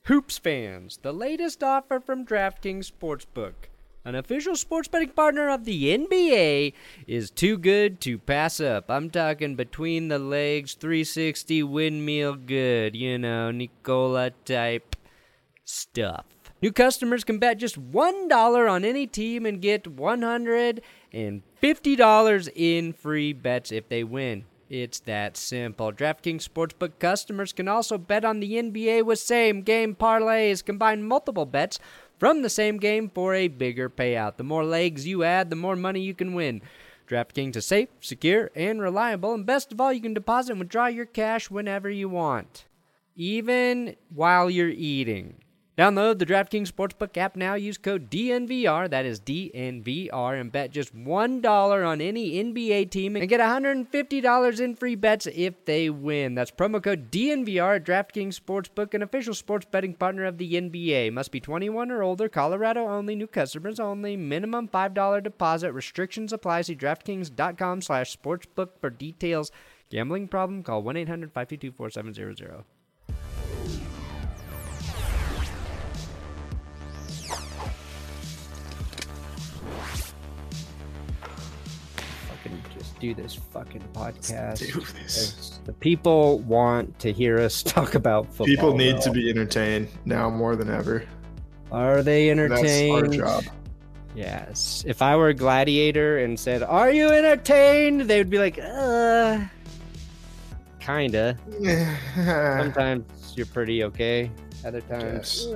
Hoops fans, the latest offer from DraftKings Sportsbook, an official sports betting partner of the NBA, is too good to pass up. I'm talking between the legs, 360 windmill good, Nicola type stuff. New customers can bet just $1 on any team and get $150 in free bets if they win. It's that simple. DraftKings Sportsbook customers can also bet on the NBA with same-game parlays. Combine multiple bets from the same game for a bigger payout. The more legs you add, the more money you can win. DraftKings is safe, secure, and reliable. And best of all, you can deposit and withdraw your cash whenever you want, even while you're eating. Download the DraftKings Sportsbook app now. Use code DNVR, that is DNVR, and bet just $1 on any NBA team and get $150 in free bets if they win. That's promo code DNVR at DraftKings Sportsbook, an official sports betting partner of the NBA. Must be 21 or older, Colorado only, new customers only, minimum $5 deposit. Restrictions apply. See DraftKings.com/sportsbook for details. Gambling problem? Call 1-800-522-4700. Do this fucking podcast. Let's do this. The people want to hear us talk about football. People need to be entertained now more than ever. Are they entertained? That's our job. Yes. If I were a gladiator and said, "Are you entertained?" they would be like, kinda. Sometimes you're pretty okay. Other times,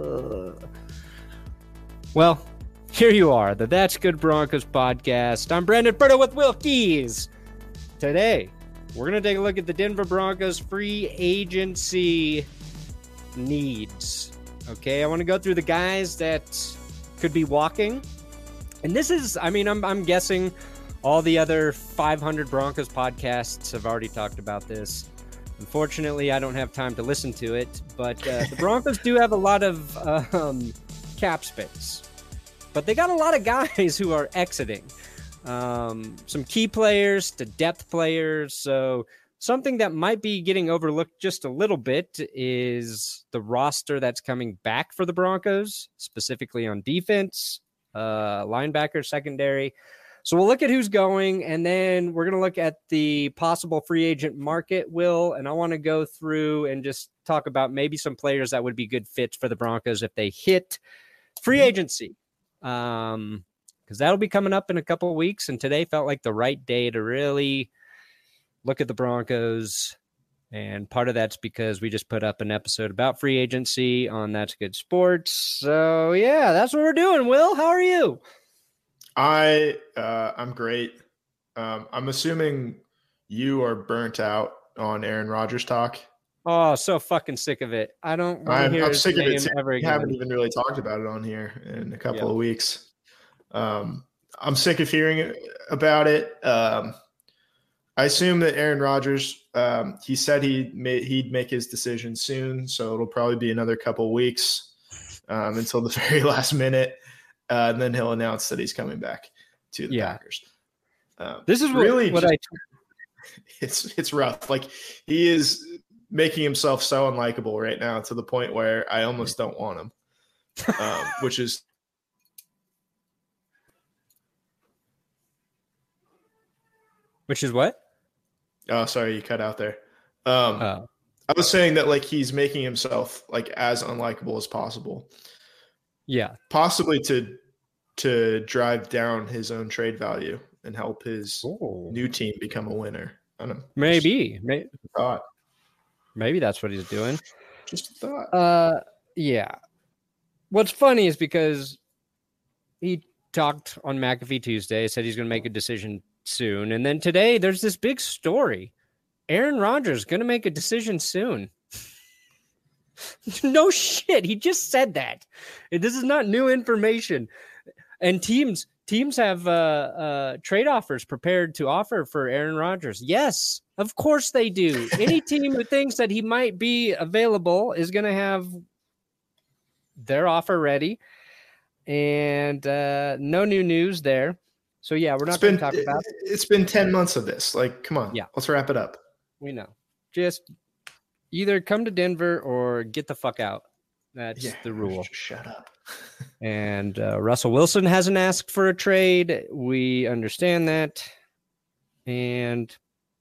well, here you are, the That's Good Broncos podcast. I'm Brandon Berto with Will Keys. Today, we're going to take a look at the Denver Broncos free agency needs. Okay, I want to go through the guys that could be walking. And this is, I'm guessing all the other 500 Broncos podcasts have already talked about this. Unfortunately, I don't have time to listen to it, but the Broncos do have a lot of cap space. But they got a lot of guys who are exiting. Some key players to depth players. So something that might be getting overlooked just a little bit is the roster that's coming back for the Broncos, specifically on defense, linebacker, secondary. So we'll look at who's going, and then we're going to look at the possible free agent market, Will. And I want to go through and just talk about maybe some players that would be good fits for the Broncos if they hit free agency. Because that'll be coming up in a couple of weeks, and today felt like the right day to really look at the Broncos. And part of that's because we just put up an episode about free agency on That's Good Sports. So yeah, that's what we're doing. Will, how are you? I'm great. I'm assuming you are burnt out on Aaron Rodgers talk. Oh, so fucking sick of it. I don't want to hear his sick of it too. ever We again. haven't even really talked about it on here in a couple of weeks. I'm sick of hearing about it. I assume that Aaron Rodgers, he said he'd make his decision soon, so it'll probably be another couple of weeks until the very last minute, and then he'll announce that he's coming back to the Packers. This is really what it's rough. Like, he is making himself so unlikable right now to the point where I almost don't want him, which is what? Oh, sorry, you cut out there. I was saying that, like, he's making himself like as unlikable as possible. Yeah, possibly to drive down his own trade value and help his new team become a winner. I don't know. Maybe. Thought. Maybe that's what he's doing. Just a thought. Yeah. What's funny is because he talked on McAfee Tuesday, said he's going to make a decision soon. And then today there's this big story. Aaron Rodgers going to make a decision soon. No shit. He just said that. This is not new information. And teams have trade offers prepared to offer for Aaron Rodgers. Yes, of course they do. Any team who thinks that he might be available is going to have their offer ready. And no new news there. So, yeah, we're not going to talk about it. It's been 10 months of this. Like, come on. Yeah. Let's wrap it up. We know. Just either come to Denver or get the fuck out. That's the rule. Shut up. And Russell Wilson hasn't asked for a trade. We understand that. And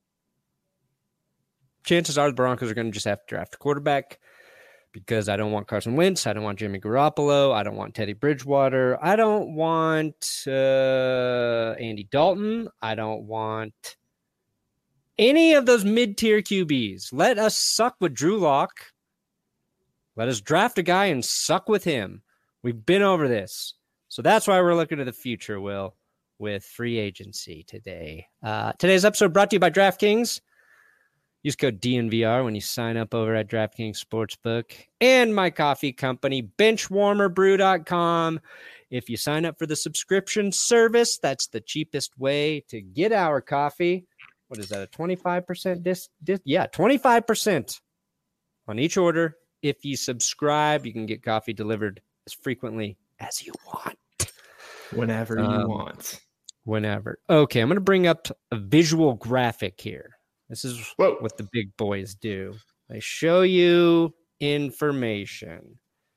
chances are the Broncos are going to just have to draft a quarterback because I don't want Carson Wentz. I don't want Jimmy Garoppolo. I don't want Teddy Bridgewater. I don't want Andy Dalton. I don't want any of those mid-tier QBs. Let us suck with Drew Lock. Let us draft a guy and suck with him. We've been over this. So that's why we're looking to the future, Will, with free agency today. Today's episode brought to you by DraftKings. Use code DNVR when you sign up over at DraftKings Sportsbook. And my coffee company, benchwarmerbrew.com. If you sign up for the subscription service, that's the cheapest way to get our coffee. What is that, a 25% Yeah, 25% on each order. If you subscribe, you can get coffee delivered as frequently as you want. Whenever you want. Whenever. Okay, I'm going to bring up a visual graphic here. This is what the big boys do. They show you information.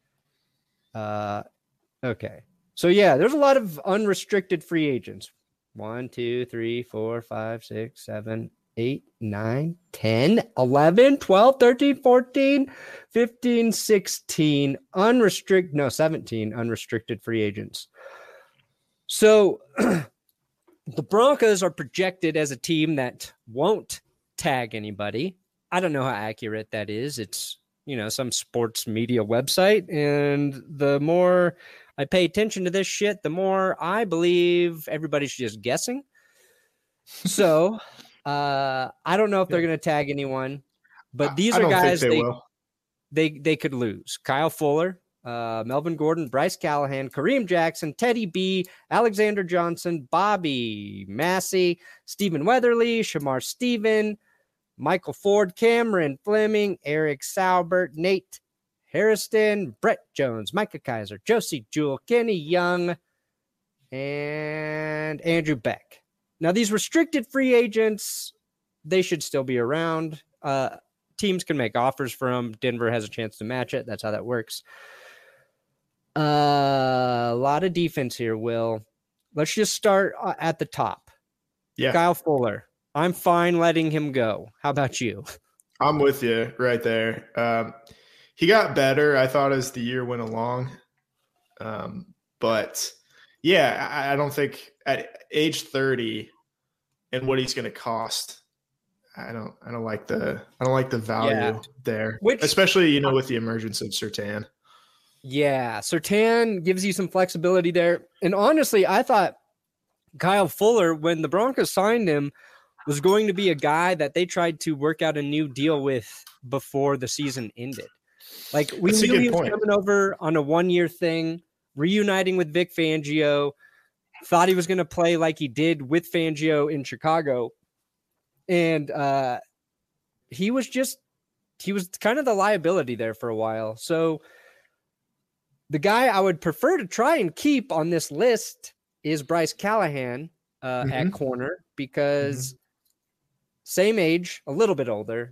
Okay. So, yeah, there's a lot of unrestricted free agents. 1, 2, 3, 4, 5, 6, 7, 8, 9, 10, 11, 12, 13, 14, 15, 16, 17 unrestricted free agents. So the Broncos are projected as a team that won't tag anybody. I don't know how accurate that is. It's, some sports media website. And the more I pay attention to this shit, the more I believe everybody's just guessing. So I don't know if they're going to tag anyone, but these are guys they could lose. Kyle Fuller, Melvin Gordon, Bryce Callahan, Kareem Jackson, Teddy B, Alexander Johnson, Bobby Massey, Stephen Weatherly, Shamar Stephen, Michael Ford, Cameron Fleming, Eric Saubert, Nate Harrison, Brett Jones, Micah Kaiser, Josie Jewell, Kenny Young, and Andrew Beck. Now, these restricted free agents, they should still be around. Teams can make offers for them. Denver has a chance to match it. That's how that works. A lot of defense here, Will. Let's just start at the top. Yeah. Kyle Fuller. I'm fine letting him go. How about you? I'm with you right there. He got better, I thought, as the year went along. But yeah, I don't think at age 30 and what he's going to cost, I don't like the value there, especially, with the emergence of Surtain. Yeah. Surtain gives you some flexibility there. And honestly, I thought Kyle Fuller, when the Broncos signed him, was going to be a guy that they tried to work out a new deal with before the season ended. Like, we knew he was coming over on a 1-year thing, reuniting with Vic Fangio, thought he was going to play like he did with Fangio in Chicago. And he was kind of the liability there for a while. So the guy I would prefer to try and keep on this list is Bryce Callahan at corner, because same age, a little bit older.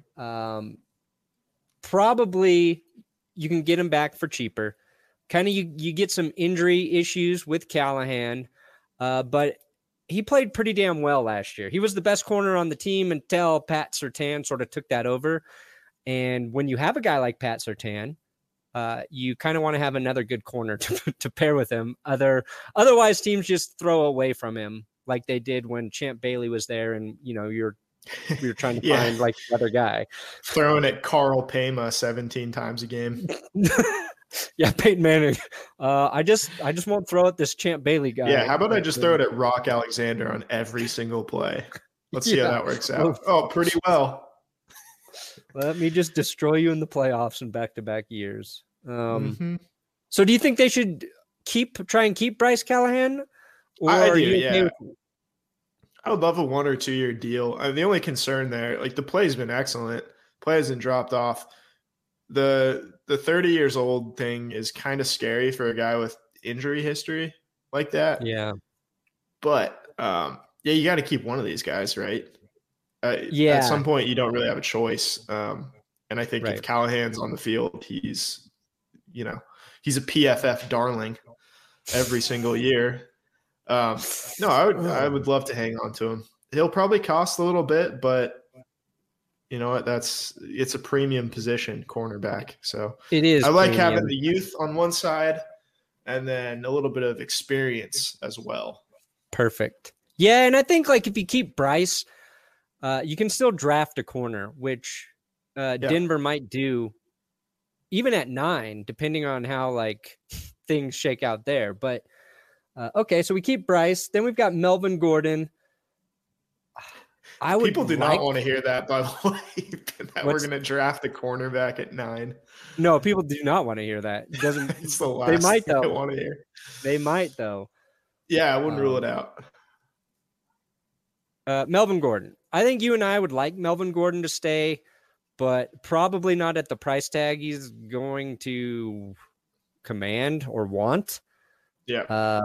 Probably you can get him back for cheaper. Kind of you get some injury issues with Callahan, but he played pretty damn well last year. He was the best corner on the team until Pat Surtain sort of took that over. And when you have a guy like Pat Surtain, you kind of want to have another good corner to pair with him. Otherwise, teams just throw away from him like they did when Champ Bailey was there, and you're trying to find like the other guy. Throwing at Carl Pema 17 times a game. Yeah, Peyton Manning. I just won't throw at this Champ Bailey guy. Yeah, how about I just throw it at Rock Alexander on every single play? Let's see how that works out. Oh, pretty well. Let me just destroy you in the playoffs in back-to-back years. So do you think they should try and keep Bryce Callahan? Or I do, yeah. I would love a 1 or 2 year deal. The only concern there, like, the play's been excellent. Play hasn't dropped off. The 30 years old thing is kind of scary for a guy with injury history like that. Yeah. But, you got to keep one of these guys, right? At some point, you don't really have a choice. And I think if Callahan's on the field, he's he's a PFF darling every single year. No, I would love to hang on to him. He'll probably cost a little bit, but you know what? It's a premium position, cornerback. So it is. I like having the youth on one side and then a little bit of experience as well. Perfect. Yeah, and I think like if you keep Bryce, you can still draft a corner, which Denver might do even at 9, depending on how like things shake out there. But okay, so we keep Bryce. Then we've got Melvin Gordon. People do not want to hear that, by the way, that we're going to draft a cornerback at 9. No, people do not want to hear that. It doesn't. It's the last thing I want to hear. They might, though. Yeah, I wouldn't rule it out. Melvin Gordon. I think you and I would like Melvin Gordon to stay, but probably not at the price tag he's going to command or want. Yeah.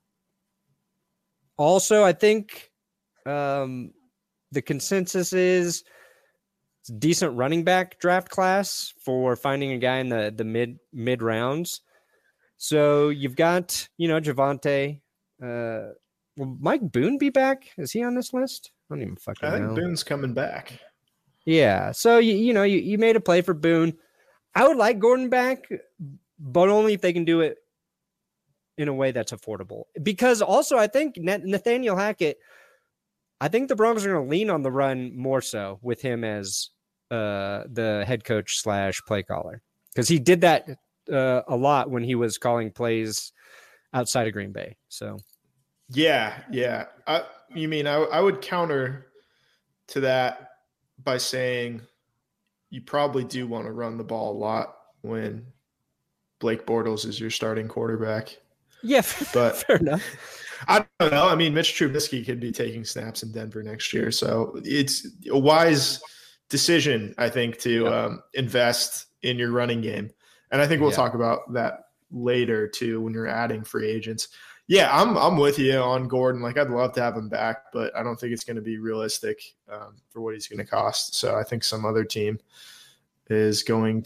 Also, I think the consensus is it's a decent running back draft class for finding a guy in the mid rounds. So you've got, Javonte. Will Mike Boone be back? Is he on this list? I don't even fucking know. I think Boone's coming back. Yeah. So, you made a play for Boone. I would like Gordon back, but only if they can do it in a way that's affordable. Because also, I think Nathaniel Hackett, I think the Broncos are going to lean on the run more so with him as the head coach / play caller. Because he did that a lot when he was calling plays outside of Green Bay. So, yeah. I would counter to that by saying you probably do want to run the ball a lot when Blake Bortles is your starting quarterback. Yeah, but fair enough. I don't know. I mean, Mitch Trubisky could be taking snaps in Denver next year. So it's a wise decision, I think, to invest in your running game. And I think we'll talk about that later, too, when you're adding free agents. Yeah, I'm with you on Gordon. Like, I'd love to have him back, but I don't think it's going to be realistic for what he's going to cost. So I think some other team with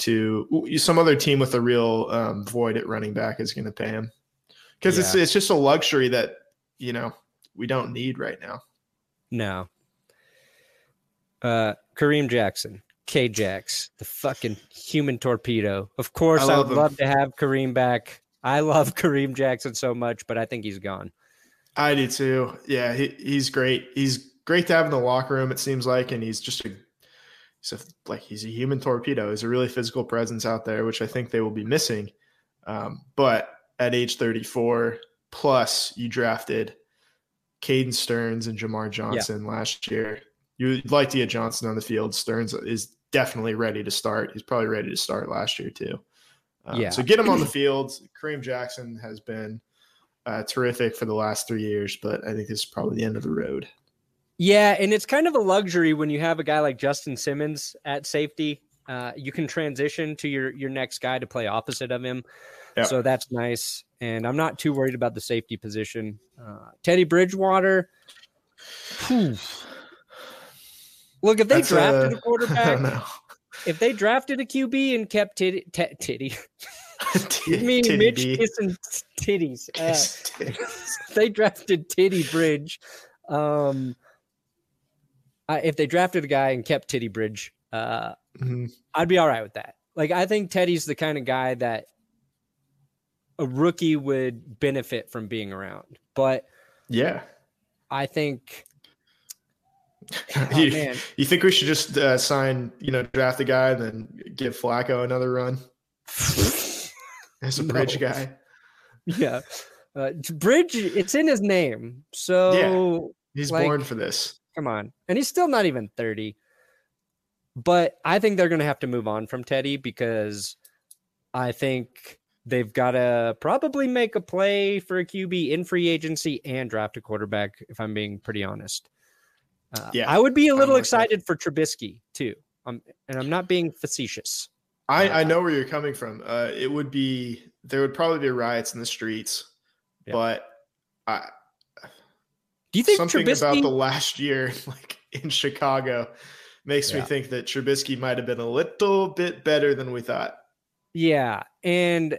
a real void at running back is going to pay him. Because it's just a luxury that, we don't need right now. No. Kareem Jackson, K-Jax, the fucking human torpedo. Of course, I would love to have Kareem back. I love Kareem Jackson so much, but I think he's gone. I do too. Yeah, he's great. He's great to have in the locker room, it seems like, and he's just he's a human torpedo. He's a really physical presence out there, which I think they will be missing. But at age 34, plus you drafted Caden Stearns and Jamar Johnson last year. You'd like to get Johnson on the field. Stearns is definitely ready to start. He's probably ready to start last year too. So get him on the field. Kareem Jackson has been terrific for the last 3 years, but I think this is probably the end of the road. Yeah, and it's kind of a luxury when you have a guy like Justin Simmons at safety. You can transition to your next guy to play opposite of him. Yep. So that's nice. And I'm not too worried about the safety position. Teddy Bridgewater. Look, if they drafted a quarterback, if they drafted a QB and kept Titty. Me, Mitch kissing titties. They drafted Titty Bridge. If they drafted a guy and kept Titty Bridge, I'd be all right with that. Like, I think Teddy's the kind of guy that a rookie would benefit from being around. But yeah, I think you think we should just draft a guy and then give Flacco another run as a bridge guy? Yeah. Bridge, it's in his name. So he's born for this. Come on. And he's still not even 30. But I think they're going to have to move on from Teddy because I think they've got to probably make a play for a QB in free agency and draft a quarterback, if I'm being pretty honest. I would be a little excited for Trubisky, too. And I'm not being facetious. I know where you're coming from. There would probably be riots in the streets. Yeah. But do you think something Trubisky, about the last year, like in Chicago, makes me think that Trubisky might have been a little bit better than we thought. Yeah, and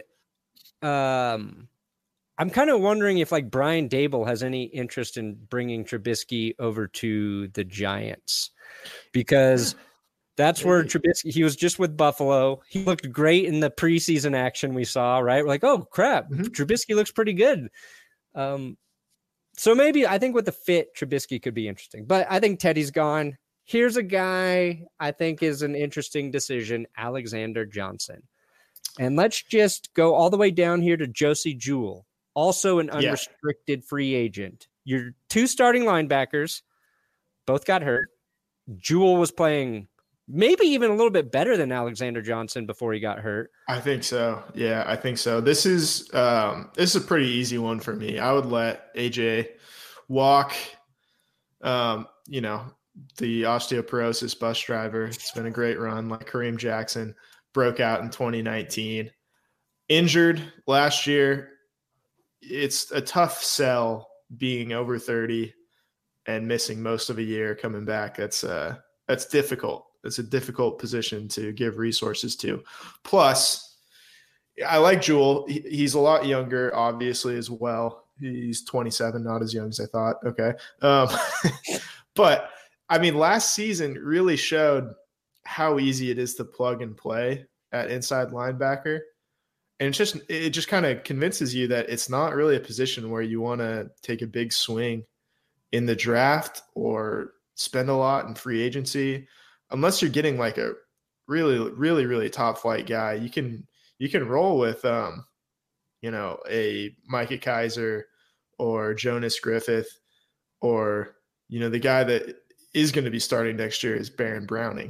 I'm kind of wondering if like Brian Dable has any interest in bringing Trubisky over to the Giants, because that's where Trubisky, he was just with Buffalo. He looked great in the preseason action we saw, right? We're like, oh crap, Trubisky looks pretty good. So maybe I think with the fit, Trubisky could be interesting, but I think Teddy's gone. Here's a guy I think is an interesting decision, Alexander Johnson. And let's just go all the way down here to Josie Jewell, also an unrestricted free agent. Your two starting linebackers both got hurt. Jewell was playing maybe even a little bit better than Alexander Johnson before he got hurt. I think so. Yeah, I think so. This is a pretty easy one for me. I would let AJ walk. The osteoporosis bus driver. It's been a great run, like Kareem Jackson. Broke out in 2019. Injured last year. It's a tough sell being over 30 and missing most of a year coming back. That's difficult. It's a difficult position to give resources to. Plus, I like Jewell. He's a lot younger, obviously, as well. He's 27, not as young as I thought. Okay. But, I mean, last season really showed how easy it is to plug and play at inside linebacker. And it just kind of convinces you that it's not really a position where you want to take a big swing in the draft or spend a lot in free agency. Unless you're getting like a really, really, really top flight guy, you can roll with, a Micah Kaiser or Jonas Griffith, or, the guy that is going to be starting next year is Baron Browning.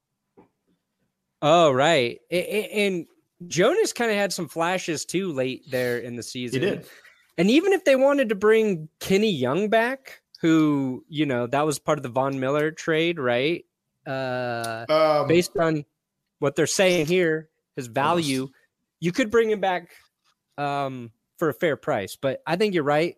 Oh, right. And Jonas kind of had some flashes too late there in the season. He did. And even if they wanted to bring Kenny Young back, who, that was part of the Von Miller trade, right? Based on what they're saying here, his value, you could bring him back for a fair price. But I think you're right.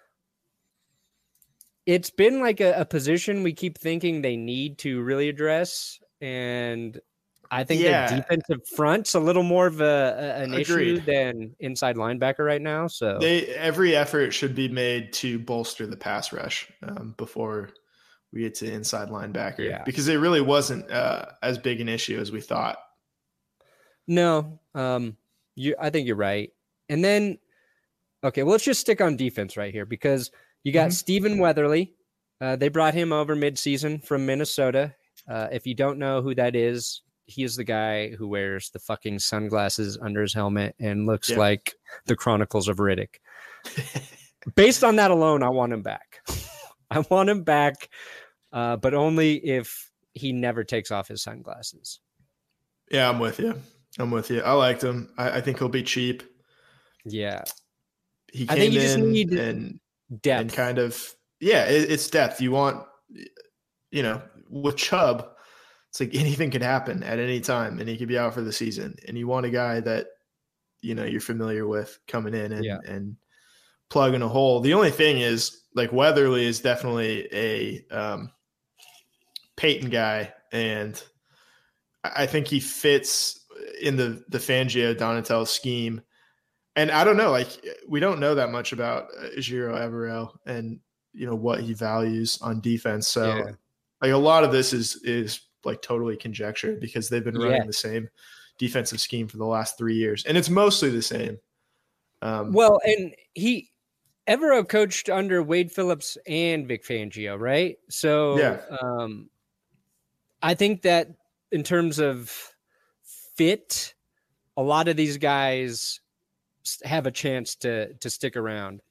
It's been like a position we keep thinking they need to really address. And I think the defensive front's a little more of an issue than inside linebacker right now. So every effort should be made to bolster the pass rush before we get to inside linebacker, because it really wasn't as big an issue as we thought. No, I think you're right. And then, okay, well, let's just stick on defense right here, because you got Stephen Weatherly. They brought him over midseason from Minnesota. If you don't know who that is, he is the guy who wears the fucking sunglasses under his helmet and looks like the Chronicles of Riddick. Based on that alone, I want him back. I want him back, but only if he never takes off his sunglasses. Yeah, I'm with you. I liked him. I think he'll be cheap. Yeah. He came in depth. And kind of, it's depth. You want, with Chubb, it's like anything could happen at any time, and he could be out for the season. And you want a guy that, you're familiar with coming in and plugging a hole. The only thing is, like, Weatherly is definitely a Peyton guy, and I think he fits in the Fangio Donatell scheme. And I don't know, like, we don't know that much about Ejiro Evero and, what he values on defense. So like a lot of this is like totally conjecture, because they've been running the same defensive scheme for the last 3 years, and it's mostly the same. Well, and Evero coached under Wade Phillips and Vic Fangio, right? So I think that in terms of fit, a lot of these guys have a chance to stick around,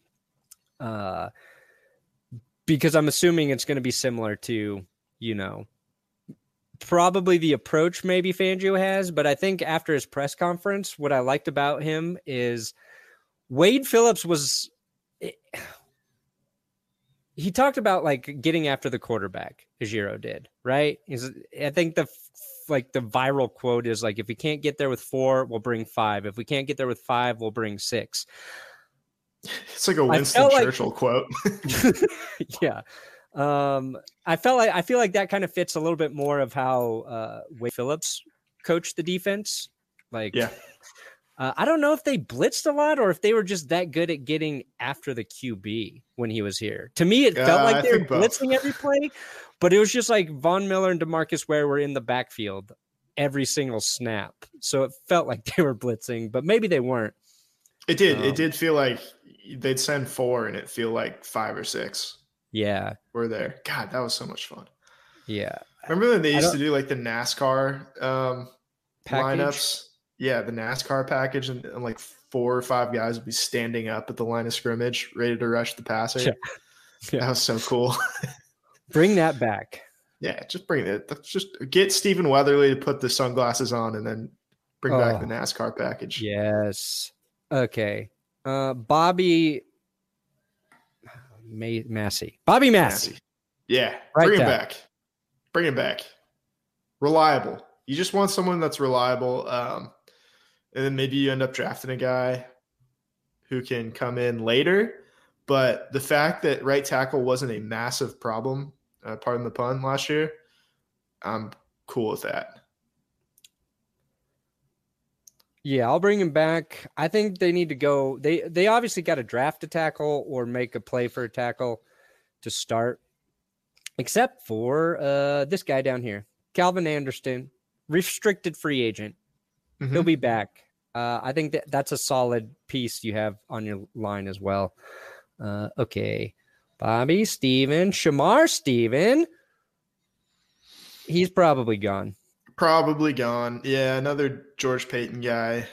because I'm assuming it's going to be similar to, probably the approach maybe Fangio has. But I think after his press conference, what I liked about him is Wade Phillips he talked about like getting after the quarterback, Ejiro did, right? I think the viral quote is like, if we can't get there with 4, we'll bring 5. If we can't get there with 5, we'll bring 6. It's like a Winston Churchill quote. Yeah. I feel like that kind of fits a little bit more of how Wade Phillips coached the defense. Like, yeah. I don't know if they blitzed a lot or if they were just that good at getting after the QB when he was here. To me, it felt like they were blitzing every play, but it was just like Von Miller and DeMarcus Ware were in the backfield every single snap. So it felt like they were blitzing, but maybe they weren't. It did. It did feel like they'd send 4 and it feel like 5 or 6. Yeah. Were there. God, that was so much fun. Yeah. Remember when they used to do like the NASCAR lineups? Yeah, the NASCAR package, and like 4 or 5 guys would be standing up at the line of scrimmage, ready to rush the passer. Yeah. That was so cool. Bring that back. Yeah, just bring it. Just get Stephen Weatherly to put the sunglasses on and then bring back the NASCAR package. Yes. Okay. Bobby Massey. Bobby Massey. Yeah, bring him back. Bring him back. Reliable. You just want someone that's reliable. And then maybe you end up drafting a guy who can come in later. But the fact that right tackle wasn't a massive problem, pardon the pun, last year, I'm cool with that. Yeah, I'll bring him back. I think they need to go. They obviously got to draft a tackle or make a play for a tackle to start, except for this guy down here, Calvin Anderson, restricted free agent. Mm-hmm. He'll be back. I think that's a solid piece you have on your line as well. Okay. Bobby Steven, Shamar Steven. He's probably gone. Probably gone. Yeah, another George Payton guy.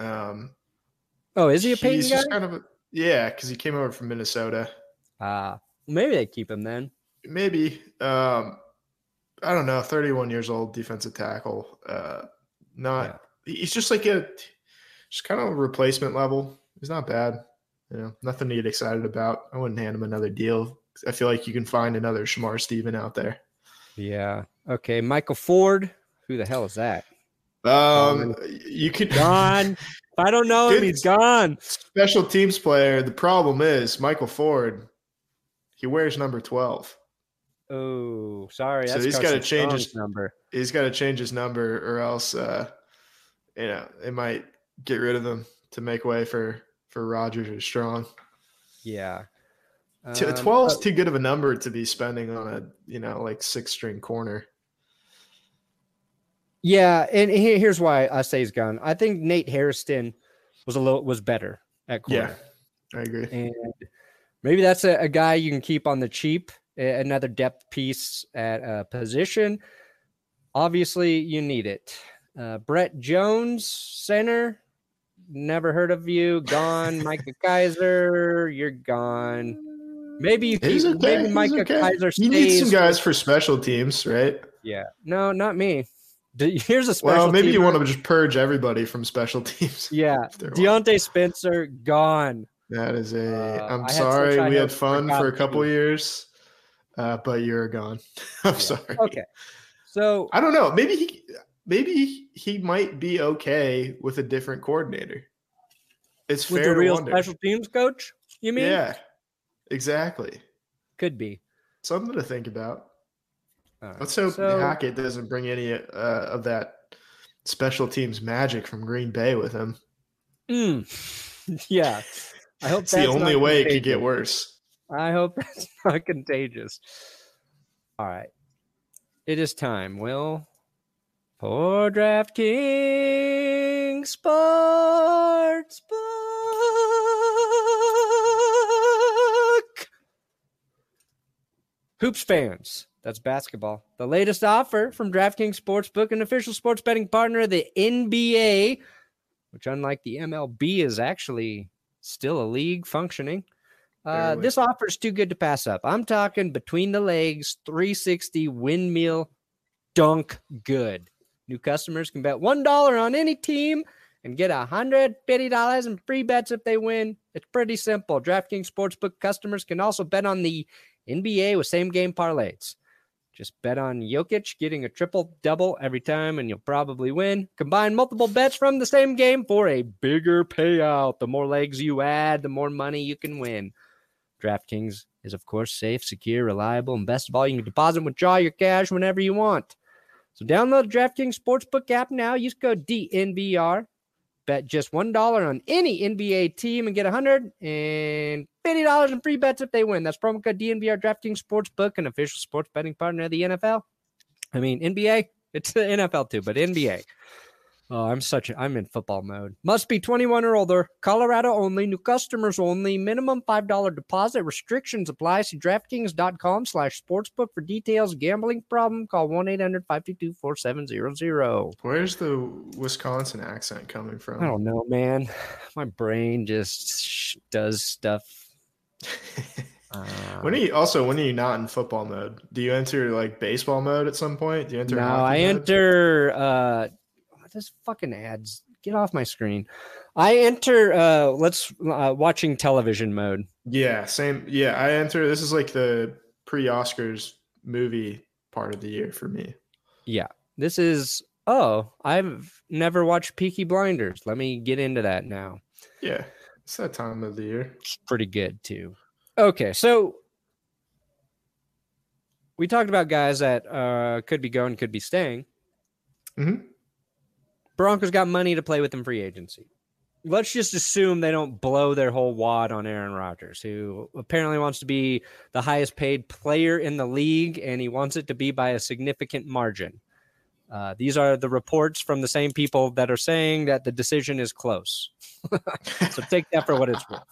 Is he a Payton guy? Just kind of because he came over from Minnesota. Maybe they keep him then. Maybe. I don't know. 31 years old, defensive tackle. He's just like just kind of a replacement level. He's not bad. Nothing to get excited about. I wouldn't hand him another deal. I feel like you can find another Shamar Steven out there. Yeah. Okay. Michael Ford. Who the hell is that? You could gone. If I don't know him, he's gone. Special teams player. The problem is Michael Ford. He wears number 12. Oh, sorry. So he's got to change his number. He's got to change his number, or else, they might get rid of him to make way for Rodgers or Strong. Yeah. 12 is too good of a number to be spending on a, like 6-string corner. Yeah, and here's why I say he's gone. I think Nate Hairston was better at corner. Yeah, I agree. And maybe that's a guy you can keep on the cheap, another depth piece at a position. Obviously, you need it. Brett Jones, center, never heard of you, gone. Micah Kaiser, you're gone. Maybe maybe Micah Kaiser stays. You need some guys for special teams, right? Yeah. No, not me. Here's a special Well, maybe teamer. You want to just purge everybody from special teams. Yeah. Deontay Spencer, gone. That is I'm sorry. We had fun for a couple years, but you're gone. I'm sorry. Okay. So I don't know. Maybe he might be okay with a different coordinator. It's with fair the real to wonder. Special teams coach, you mean? Yeah, exactly. Could be. Something to think about. Right. Let's hope Hackett doesn't bring any of that special teams magic from Green Bay with him. Yeah. I hope it's the only way it could get worse. I hope that's not contagious. All right. It is time, Will, for DraftKings Sportsbook. Hoops fans, that's basketball. The latest offer from DraftKings Sportsbook, an official sports betting partner of the NBA, which unlike the MLB is actually still a league functioning. This offer is too good to pass up. I'm talking between the legs, 360 windmill dunk good. New customers can bet $1 on any team and get $150 in free bets if they win. It's pretty simple. DraftKings Sportsbook customers can also bet on the NBA with same-game parlays. Just bet on Jokic getting a triple-double every time, and you'll probably win. Combine multiple bets from the same game for a bigger payout. The more legs you add, the more money you can win. DraftKings is, of course, safe, secure, reliable, and best of all, you can deposit and withdraw your cash whenever you want. So download the DraftKings Sportsbook app now. Use code DNVR. Bet just $1 on any NBA team and get $150 in free bets if they win. That's promo code DNVR. DraftKings Sportsbook, an official sports betting partner of the NFL. I mean, NBA, it's the NFL too, but NBA. Oh, I'm in football mode. Must be 21 or older. Colorado only. New customers only. Minimum $5 deposit. Restrictions apply. See DraftKings.com/sportsbook for details. Gambling problem? Call 1-800-522-4700. Where's the Wisconsin accent coming from? I don't know, man. My brain just does stuff. When are you not in football mode? Do you enter like baseball mode at some point? Do you enter? No, hockey I mode? enter. This fucking ads. Get off my screen. I enter watching television mode. Yeah, same. Yeah, I enter. This is like the pre-Oscars movie part of the year for me. Yeah. This is I've never watched Peaky Blinders. Let me get into that now. Yeah. It's that time of the year. It's pretty good too. Okay, so we talked about guys that could be going, could be staying. Mm-hmm. Broncos got money to play with in free agency. Let's just assume they don't blow their whole wad on Aaron Rodgers, who apparently wants to be the highest paid player in the league, and he wants it to be by a significant margin. These are the reports from the same people that are saying that the decision is close. So take that for what it's worth.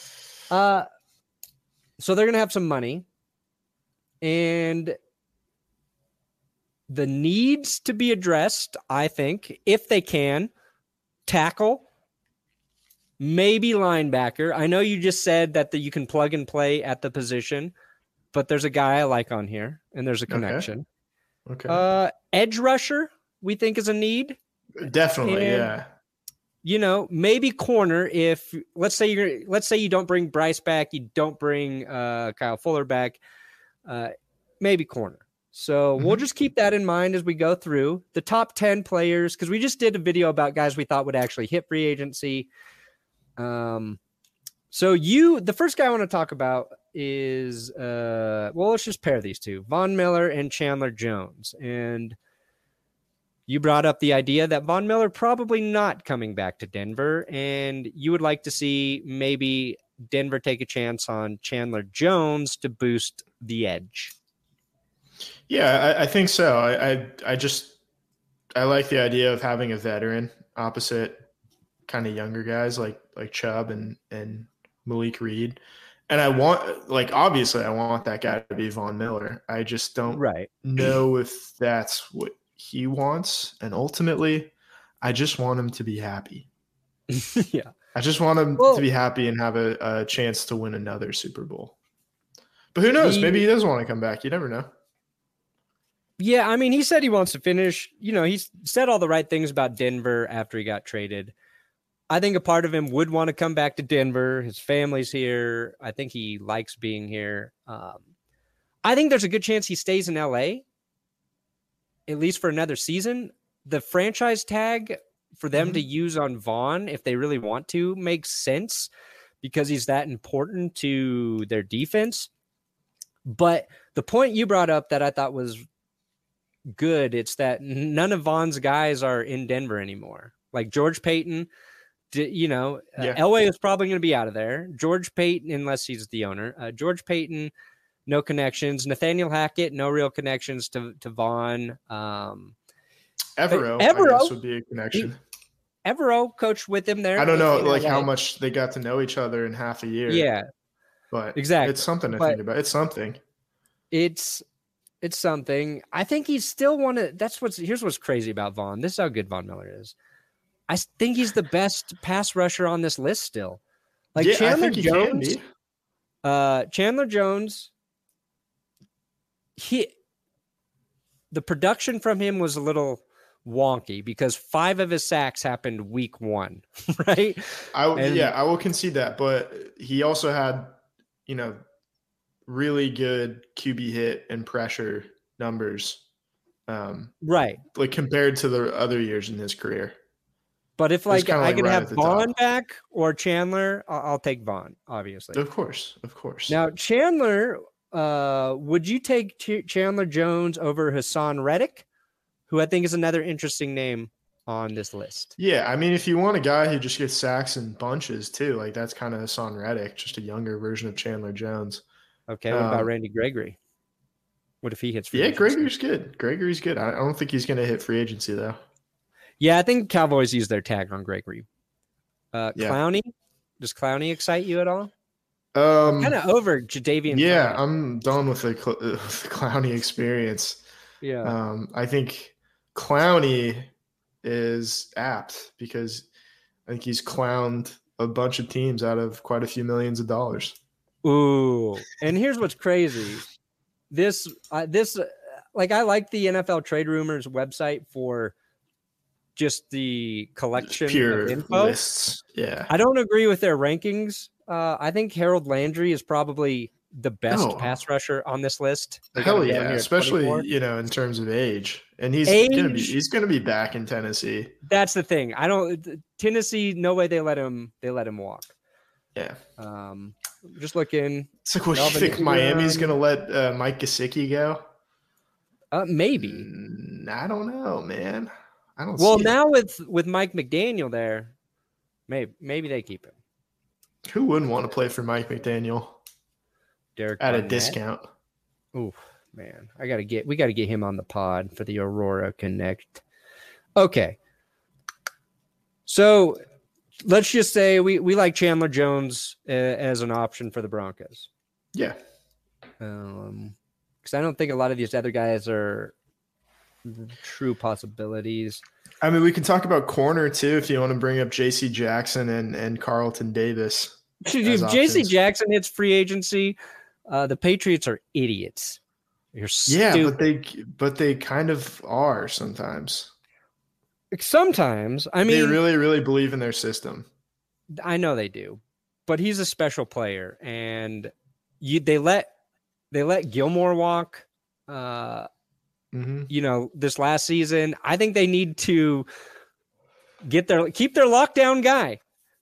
So they're going to have some money, and the needs to be addressed, I think, if they can, tackle, maybe linebacker. I know you just said that you can plug and play at the position, but there's a guy I like on here, and there's a connection. Okay. Edge rusher, we think is a need. Definitely, and, yeah. Maybe corner. If let's say you don't bring Bryce back, you don't bring Kyle Fuller back, maybe corner. So we'll just keep that in mind as we go through the top 10 players, because we just did a video about guys we thought would actually hit free agency. The first guy I want to talk about is, let's just pair these two, Von Miller and Chandler Jones. And you brought up the idea that Von Miller probably not coming back to Denver, and you would like to see maybe Denver take a chance on Chandler Jones to boost the edge. Yeah, I think so. I like the idea of having a veteran opposite kind of younger guys like Chubb and Malik Reed. And obviously I want that guy to be Von Miller. I just don't know if that's what he wants. And ultimately, I just want him to be happy. Yeah. I just want him to be happy and have a chance to win another Super Bowl. But who knows? Maybe he does want to come back. You never know. Yeah, I mean, he said he wants to finish. He's said all the right things about Denver after he got traded. I think a part of him would want to come back to Denver. His family's here. I think he likes being here. I think there's a good chance he stays in LA, at least for another season. The franchise tag for them to use on Vaughn, if they really want to, makes sense because he's that important to their defense. But the point you brought up that I thought was good, it's that none of Vaughn's guys are in Denver anymore. Like George Payton, Elway is probably going to be out of there. George Payton, unless he's the owner. George Payton, no connections. Nathaniel Hackett, no real connections to Vaughn. Evero, I guess, would be a connection. Evero coached with him there. I don't know how much they got to know each other in half a year. Yeah. But exactly. It's something to think about. It's something. It's something. I think he's still here's what's crazy about Vaughn. This is how good Von Miller is. I think he's the best pass rusher on this list still. Chandler Jones. Chandler Jones. The production from him was a little wonky because 5 of his sacks happened week 1, right? I will concede that, but he also had, really good QB hit and pressure numbers. Right. Compared to the other years in his career. But if I could have Vaughn back or Chandler, I'll take Vaughn, obviously. Of course. Now, Chandler, would you take Chandler Jones over Hassan Reddick, who I think is another interesting name on this list. Yeah, I mean, if you want a guy who just gets sacks in bunches too, like that's kind of Hassan Reddick, just a younger version of Chandler Jones. Okay, what about Randy Gregory? What if he hits free agency? Gregory's good. Gregory's good. I don't think he's going to hit free agency though. Yeah, I think Cowboys use their tag on Gregory. Clowney, does Clowney excite you at all? Kind of over Jadeveon. Yeah, Clowney. I'm done with the Clowney experience. Yeah, I think Clowney is apt because I think he's clowned a bunch of teams out of quite a few millions of dollars. Ooh, and here's what's crazy. This like I like the NFL Trade Rumors website for just the collection Pure of info. Lists. Yeah, I don't agree with their rankings. I think Harold Landry is probably the best pass rusher on this list. Hell yeah, especially in terms of age, and he's gonna be back in Tennessee. That's the thing. Tennessee. No way they let him walk. Yeah. Just looking. It's like, what do you think? Miami's gonna let Mike Gesicki go? Maybe. I don't know, man. I don't. Well, now with Mike McDaniel there, maybe they keep him. Who wouldn't want to play for Mike McDaniel? Derek at Barnett. A discount. Ooh, man, we got to get him on the pod for the Aurora Connect. Okay, so let's just say we like Chandler Jones as an option for the Broncos. Yeah, because I don't think a lot of these other guys are true possibilities. I mean, we can talk about corner too if you want to bring up J.C. Jackson and Carlton Davis. If J.C. Jackson hits free agency, the Patriots are idiots. You're stupid. Yeah, but they kind of are sometimes. Sometimes, I mean, they really, really believe in their system. I know they do, but he's a special player, and they let Gilmore walk. This last season, I think they need to keep their lockdown guy.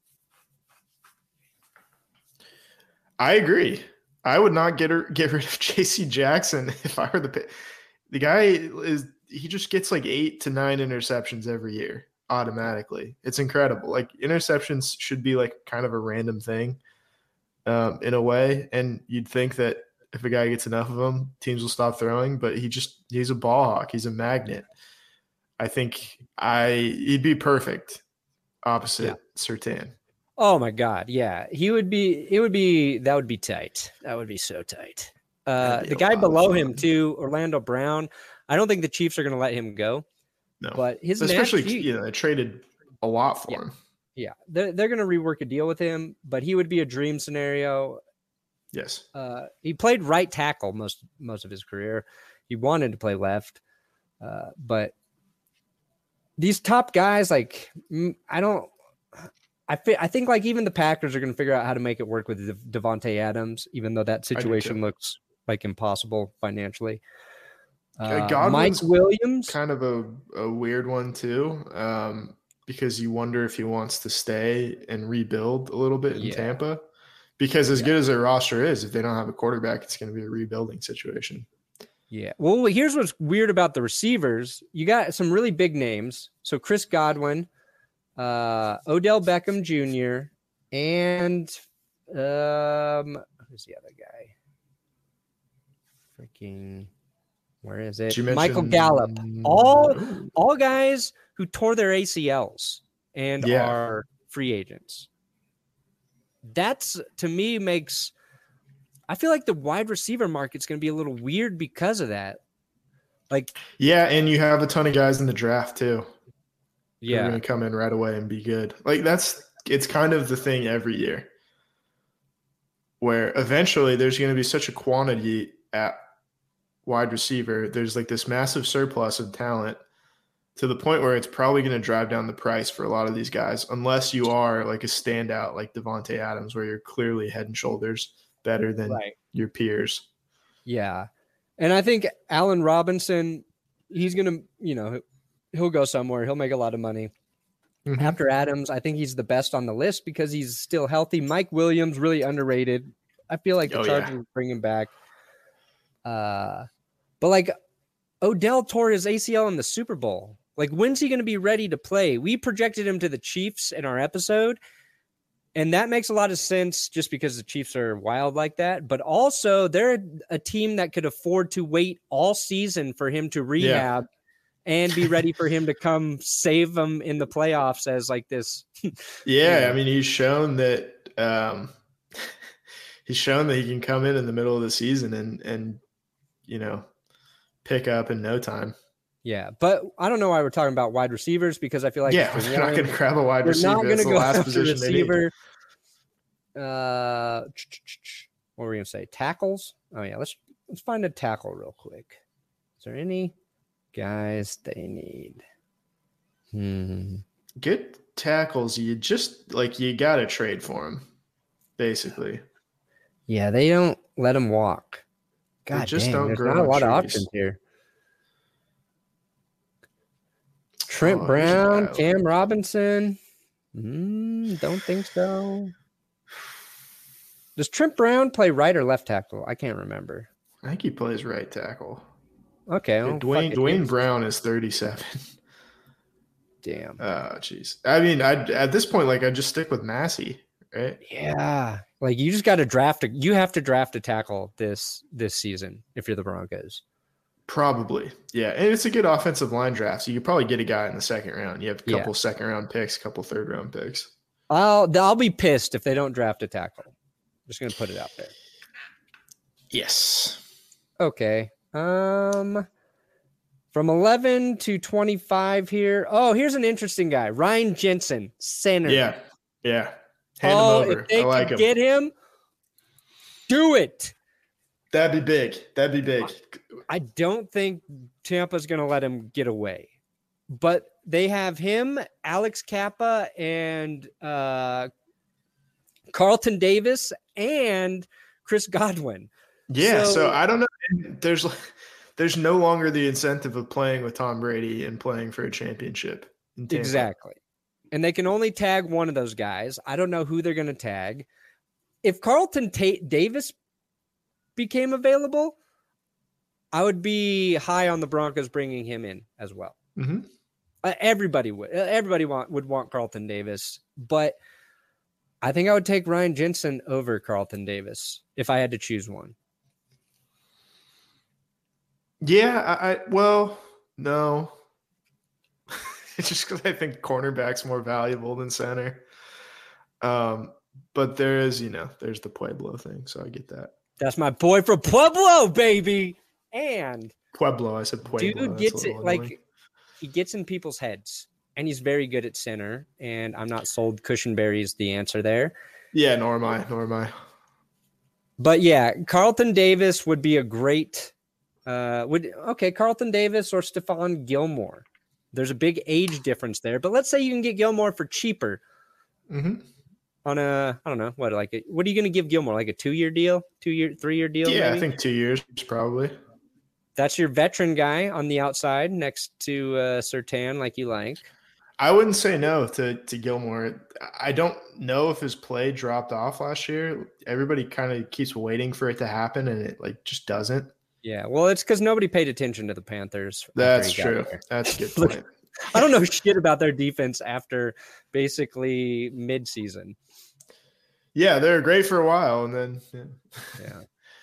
I agree. I would not get rid of J.C. Jackson if I were the guy. He just gets like 8 to 9 interceptions every year automatically. It's incredible. Like, interceptions should be like kind of a random thing in a way, and you'd think that if a guy gets enough of them, teams will stop throwing, but he's a ball hawk. He's a magnet. I think he'd be perfect opposite Surtain. Oh my God. Yeah. That would be tight. That would be so tight. The guy below him too, Orlando Brown. I don't think the Chiefs are going to let him go. No, but they traded a lot for him. Yeah. They're going to rework a deal with him, but he would be a dream scenario. Yes. He played right tackle most of his career. He wanted to play left. But these top guys, like, I think like even the Packers are going to figure out how to make it work with Devontae Adams, even though that situation looks like impossible financially. Mike Williams, kind of a weird one too, because you wonder if he wants to stay and rebuild a little bit in Tampa. Because as good as their roster is, if they don't have a quarterback, it's going to be a rebuilding situation. Yeah. Well, here's what's weird about the receivers. You got some really big names. So Chris Godwin, Odell Beckham Jr., and who's the other guy? Where is it? Michael Gallup. All guys who tore their ACLs and are free agents. That's, to me, I feel like the wide receiver market's going to be a little weird because of that. Like, yeah, and you have a ton of guys in the draft too. Yeah, they're going to come in right away and be good. Like, it's kind of the thing every year, where eventually there's going to be such a quantity at wide receiver. There's like this massive surplus of talent to the point where it's probably going to drive down the price for a lot of these guys, unless you are like a standout like Devontae Adams, where you're clearly head and shoulders better than your peers. Yeah. And I think Allen Robinson, he's going to, he'll go somewhere. He'll make a lot of money. Mm-hmm. After Adams, I think he's the best on the list because he's still healthy. Mike Williams, really underrated. I feel like the Chargers will bring him back. But like, Odell tore his ACL in the Super Bowl. Like, when's he going to be ready to play? We projected him to the Chiefs in our episode, and that makes a lot of sense just because the Chiefs are wild like that. But also, they're a team that could afford to wait all season for him to rehab and be ready for him to come save them in the playoffs as like this. Yeah, I mean, he's shown that he can come in the middle of the season and pick up in no time. Yeah, but I don't know why we're talking about wide receivers because I feel like we're not going to grab a wide receiver. We're not going to go last after position receiver. What were we going to say? Tackles? Oh yeah, let's find a tackle real quick. Is there any guys they need? Good tackles. You got to trade for them, basically. Yeah, they don't let them walk. God, there's not a lot of options here. Trent Brown, Cam Robinson. Don't think so. Does Trent Brown play right or left tackle? I can't remember. I think he plays right tackle. Okay. Well, Dwayne Brown is 37. Damn. Oh, jeez. I mean, at this point, I'd just stick with Massey, right? Yeah. You just got to draft you have to draft a tackle this season if you're the Broncos. Probably. Yeah. And it's a good offensive line draft. So you could probably get a guy in the second round. You have a couple second round picks, a couple third round picks. I'll be pissed if they don't draft a tackle. I'm just going to put it out there. Yes. Okay. From 11 to 25 here. Oh, here's an interesting guy. Ryan Jensen, center. Yeah. Hand him over. If they can get him, do it. That'd be big. I don't think Tampa's going to let him get away. But they have him, Alex Kappa, and Carlton Davis, and Chris Godwin. Yeah, so I don't know. There's no longer the incentive of playing with Tom Brady and playing for a championship. Exactly. And they can only tag one of those guys. I don't know who they're going to tag. If Carlton Davis became available, I would be high on the Broncos bringing him in as well. Mm-hmm. Everybody would. Everybody would want Carlton Davis, but I think I would take Ryan Jensen over Carlton Davis if I had to choose one. Yeah, well, no. It's just because I think cornerback's more valuable than center. But there is, there's the Pueblo thing, so I get that. That's my boy from Pueblo, baby. And Pueblo, I said Pueblo. Dude gets it he gets in people's heads, and he's very good at center. And I'm not sold Cushenberry is the answer there. Yeah, nor am I. But yeah, Carlton Davis would be a great. Carlton Davis or Stephon Gilmore. There's a big age difference there, but let's say you can get Gilmore for cheaper. Mm-hmm. On I don't know, what are you going to give Gilmore? Like a 2-year deal? 3-year deal? Yeah, maybe? I think 2 years probably. That's your veteran guy on the outside next to Surtain, like you like. I wouldn't say no to Gilmore. I don't know if his play dropped off last year. Everybody kind of keeps waiting for it to happen, and it just doesn't. Yeah, well, it's because nobody paid attention to the Panthers. That's true. That's a good point. I don't know shit about their defense after basically mid-season. Yeah, they were great for a while, and then yeah.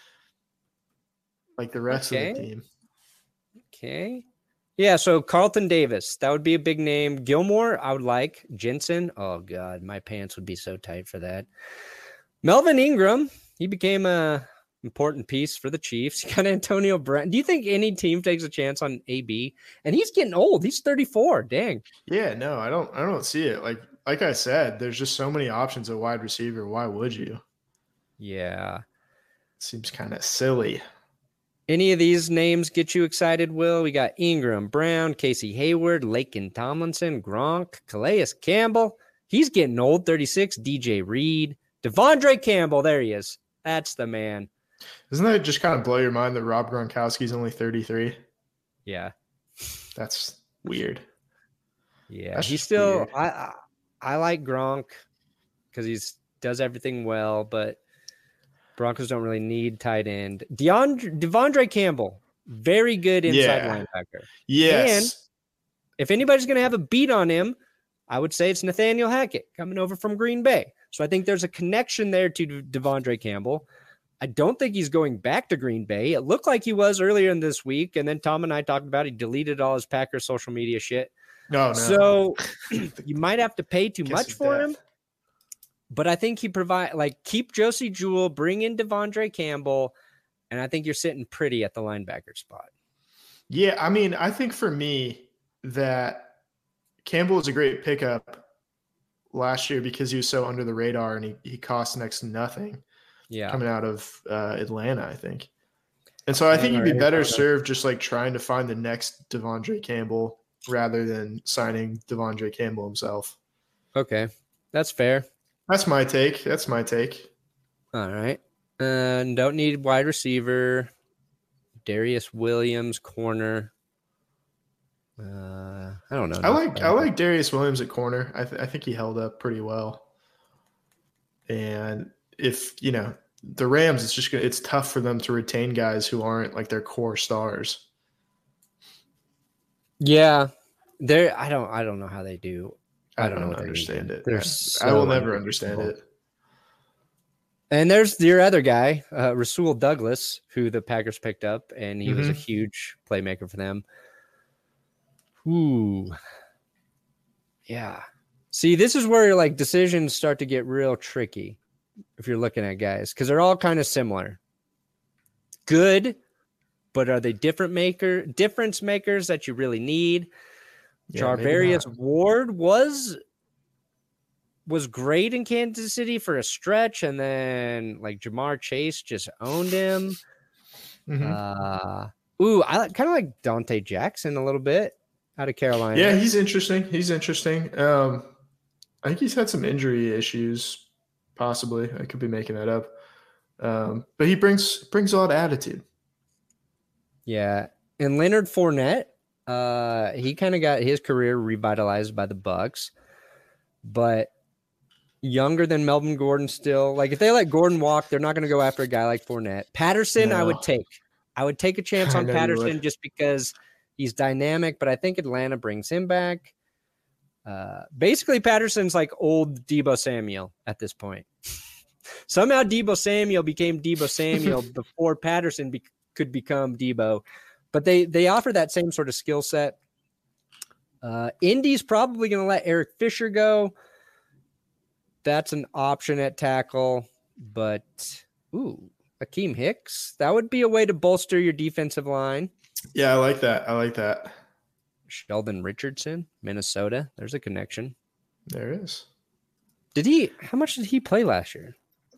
Like the rest of the team. Okay. Yeah, so Carlton Davis, that would be a big name. Gilmore, I would like. Jensen, oh God, my pants would be so tight for that. Melvin Ingram, he became a important piece for the Chiefs. You got Antonio Brown. Do you think any team takes a chance on AB? And he's getting old. He's 34. Dang. Yeah, no, I don't see it. Like I said, there's just so many options at wide receiver. Why would you? Yeah. Seems kind of silly. Any of these names get you excited, Will? We got Ingram, Brown, Casey Hayward, Laken Tomlinson, Gronk, Calais Campbell. He's getting old, 36. DJ Reed, Devondre Campbell. There he is. That's the man. Doesn't that just kind of blow your mind that Rob Gronkowski's only 33? Yeah. That's weird. Yeah. That's he's still weird. I like Gronk because he does everything well, but Broncos don't really need tight end. Devondre Campbell. Very good inside linebacker. Yes. And if anybody's going to have a beat on him, I would say it's Nathaniel Hackett coming over from Green Bay. So I think there's a connection there to Devondre Campbell. I don't think he's going back to Green Bay. It looked like he was earlier in this week, and then Tom and I talked about he deleted all his Packers social media shit. No. So you might have to pay too much for him. But I think he keep Josie Jewell, bring in Devondre Campbell, and I think you're sitting pretty at the linebacker spot. Yeah, I mean, I think for me that Campbell was a great pickup last year because he was so under the radar and he cost next to nothing. Yeah, coming out of Atlanta, I think. And so I think you'd be better served just like trying to find the next Devondre Campbell rather than signing Devondre Campbell himself. Okay, that's fair. That's my take. All right. Don't need wide receiver. Darius Williams, corner. I don't know. I like Darius Williams at corner. I think he held up pretty well. And if, the Rams, it's tough for them to retain guys who aren't like their core stars. Yeah. I don't know how they do. I don't understand it. I will never understand it. And there's your other guy, Rasul Douglas, who the Packers picked up, and he was a huge playmaker for them. Ooh. Yeah. See, this is where decisions start to get real tricky if you're looking at guys, because they're all kind of similar. Good, but are they difference makers that you really need? Yeah, Charvarius Ward was great in Kansas City for a stretch, and then Jamar Chase just owned him. I kind of like Dante Jackson a little bit out of Carolina. Yeah, he's interesting. I think he's had some injury issues, possibly. I could be making that up. But he brings a lot of attitude. Yeah. And Leonard Fournette, he kind of got his career revitalized by the Bucs, but younger than Melvin Gordon still. If they let Gordon walk, they're not going to go after a guy like Fournette. Patterson, no. I would take a chance on Patterson just because he's dynamic, but I think Atlanta brings him back. Basically, Patterson's like old Deebo Samuel at this point. Somehow Deebo Samuel became Deebo Samuel before Patterson could become Deebo. But they offer that same sort of skill set. Indy's probably going to let Eric Fisher go. That's an option at tackle. But, Akeem Hicks, that would be a way to bolster your defensive line. Yeah, I like that. Sheldon Richardson, Minnesota. There's a connection. There is. How much did he play last year?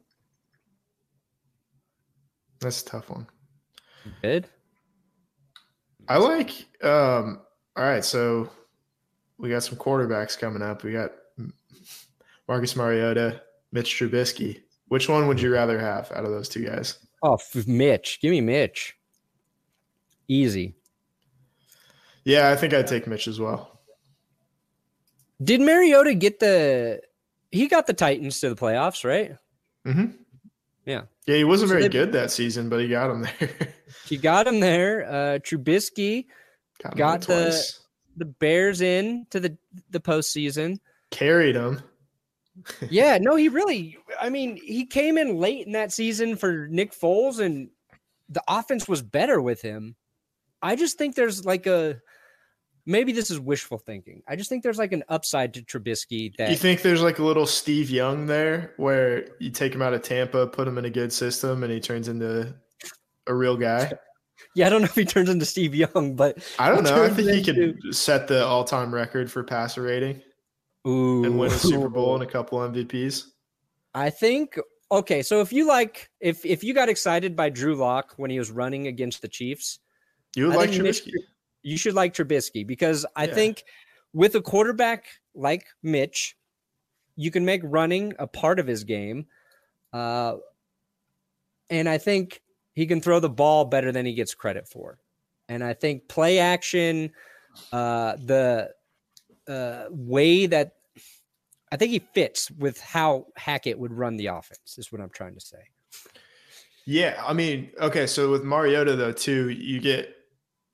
That's a tough one. Good. I like, all right, so we got some quarterbacks coming up. We got Marcus Mariota, Mitch Trubisky. Which one would you rather have out of those two guys? Oh, Mitch. Give me Mitch. Easy. Yeah, I think I'd take Mitch as well. Did Mariota he got the Titans to the playoffs, right? Mm-hmm. Yeah. Yeah, he wasn't very good that season, but he got him there. He got him there. Trubisky got the Bears in to the postseason. Carried them. Yeah, no, he came in late in that season for Nick Foles, and the offense was better with him. I just think there's maybe this is wishful thinking. I just think there's an upside to Trubisky. You think there's a little Steve Young there where you take him out of Tampa, put him in a good system, and he turns into a real guy? Yeah, I don't know if he turns into Steve Young, but I don't know. I think he could set the all-time record for passer rating. Ooh. And win a Super Bowl and a couple MVPs. I think okay. So if you if you got excited by Drew Lock when he was running against the Chiefs, you would like Trubisky. You should like Trubisky because I think with a quarterback like Mitch, you can make running a part of his game. And I think he can throw the ball better than he gets credit for. And I think play action, the way that I think he fits with how Hackett would run the offense is what I'm trying to say. Yeah. I mean, okay. So with Mariota though, too, you get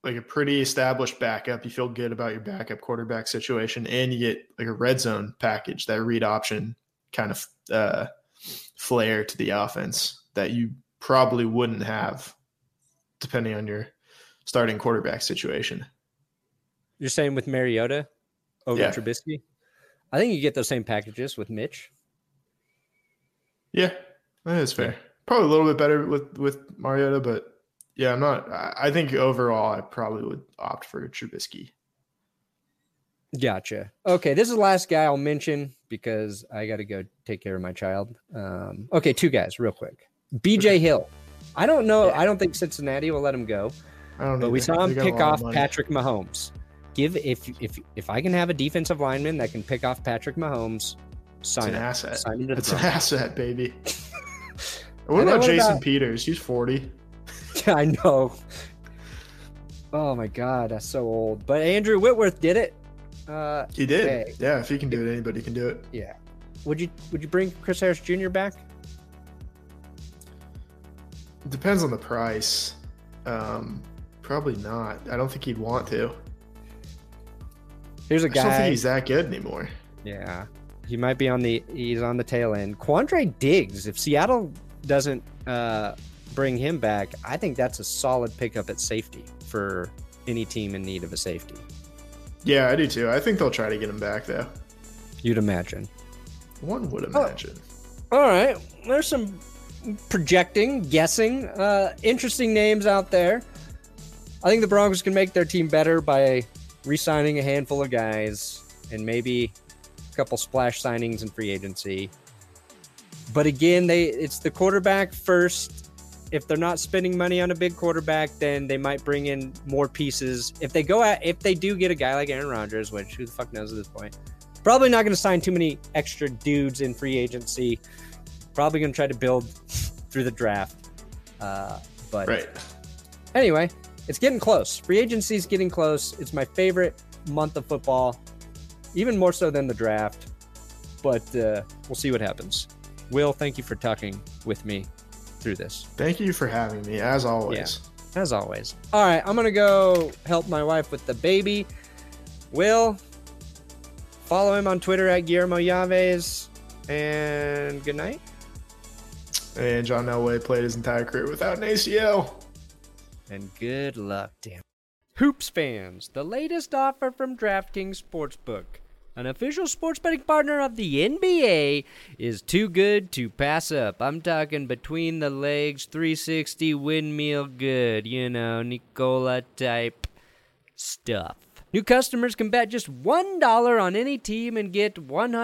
like a pretty established backup. You feel good about your backup quarterback situation, and you get like a red zone package, that read option kind of flair to the offense that you probably wouldn't have depending on your starting quarterback situation. You're saying with Mariota over Trubisky? I think you get those same packages with Mitch. Yeah, that is fair. Probably a little bit better with Mariota, but yeah, I think overall I probably would opt for Trubisky. Gotcha. Okay, this is the last guy I'll mention because I got to go take care of my child. Okay, two guys real quick. BJ Hill. I don't know. Yeah. I don't think Cincinnati will let him go. But we saw him pick off Patrick Mahomes. If I can have a defensive lineman that can pick off Patrick Mahomes, sign him. Asset. Sign him to the It's an asset, baby. What about Jason Peters? He's 40. I know. Oh my God, that's so old. But Andrew Whitworth did it. He did. Hey. Yeah, if he can do it, anybody can do it. Yeah. Would you bring Chris Harris Jr. back? It depends on the price. Probably not. I don't think he'd want to. Here's a guy. I don't think he's that good anymore. Yeah. He might be he's on the tail end. Quandre Diggs, if Seattle doesn't bring him back, I think that's a solid pickup at safety for any team in need of a safety. Yeah, I do too. I think they'll try to get him back, though. You'd imagine. One would imagine. Oh. All right. There's some projecting, guessing, interesting names out there. I think the Broncos can make their team better by re-signing a handful of guys and maybe a couple splash signings in free agency. But again, it's the quarterback first. If they're not spending money on a big quarterback, then they might bring in more pieces. If they do get a guy like Aaron Rodgers, which who the fuck knows at this point, probably not going to sign too many extra dudes in free agency. Probably going to try to build through the draft. But right. Anyway, it's getting close. Free agency is getting close. It's my favorite month of football, even more so than the draft. But we'll see what happens. Will, thank you for talking with me through this. Thank you for having me, as always. Yeah, as always. All right, I'm going to go help my wife with the baby. Will, follow him on Twitter at Guillermo Yaves. And good night. And John Elway played his entire career without an ACL. And good luck, damn. Hoops fans, the latest offer from DraftKings Sportsbook, an official sports betting partner of the NBA, is too good to pass up. I'm talking between the legs, 360 windmill good, Nicola type stuff. New customers can bet just $1 on any team and get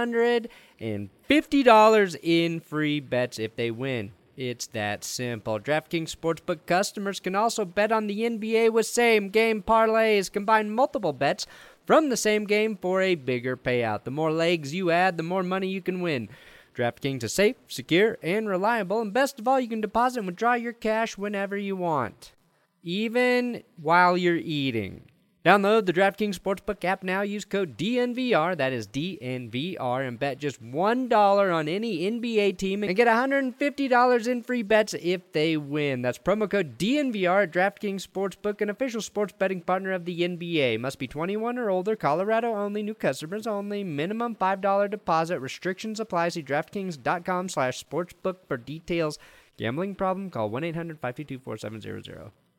$150 in free bets if they win. It's that simple. DraftKings Sportsbook customers can also bet on the NBA with same-game parlays. Combine multiple bets from the same game for a bigger payout. The more legs you add, the more money you can win. DraftKings is safe, secure, and reliable. And best of all, you can deposit and withdraw your cash whenever you want, even while you're eating. Download the DraftKings Sportsbook app now. Use code DNVR, that is DNVR, and bet just $1 on any NBA team and get $150 in free bets if they win. That's promo code DNVR at DraftKings Sportsbook, an official sports betting partner of the NBA. Must be 21 or older, Colorado only, new customers only, minimum $5 deposit. Restrictions apply. See DraftKings.com/sportsbook for details. Gambling problem? Call 1-800-522-4700.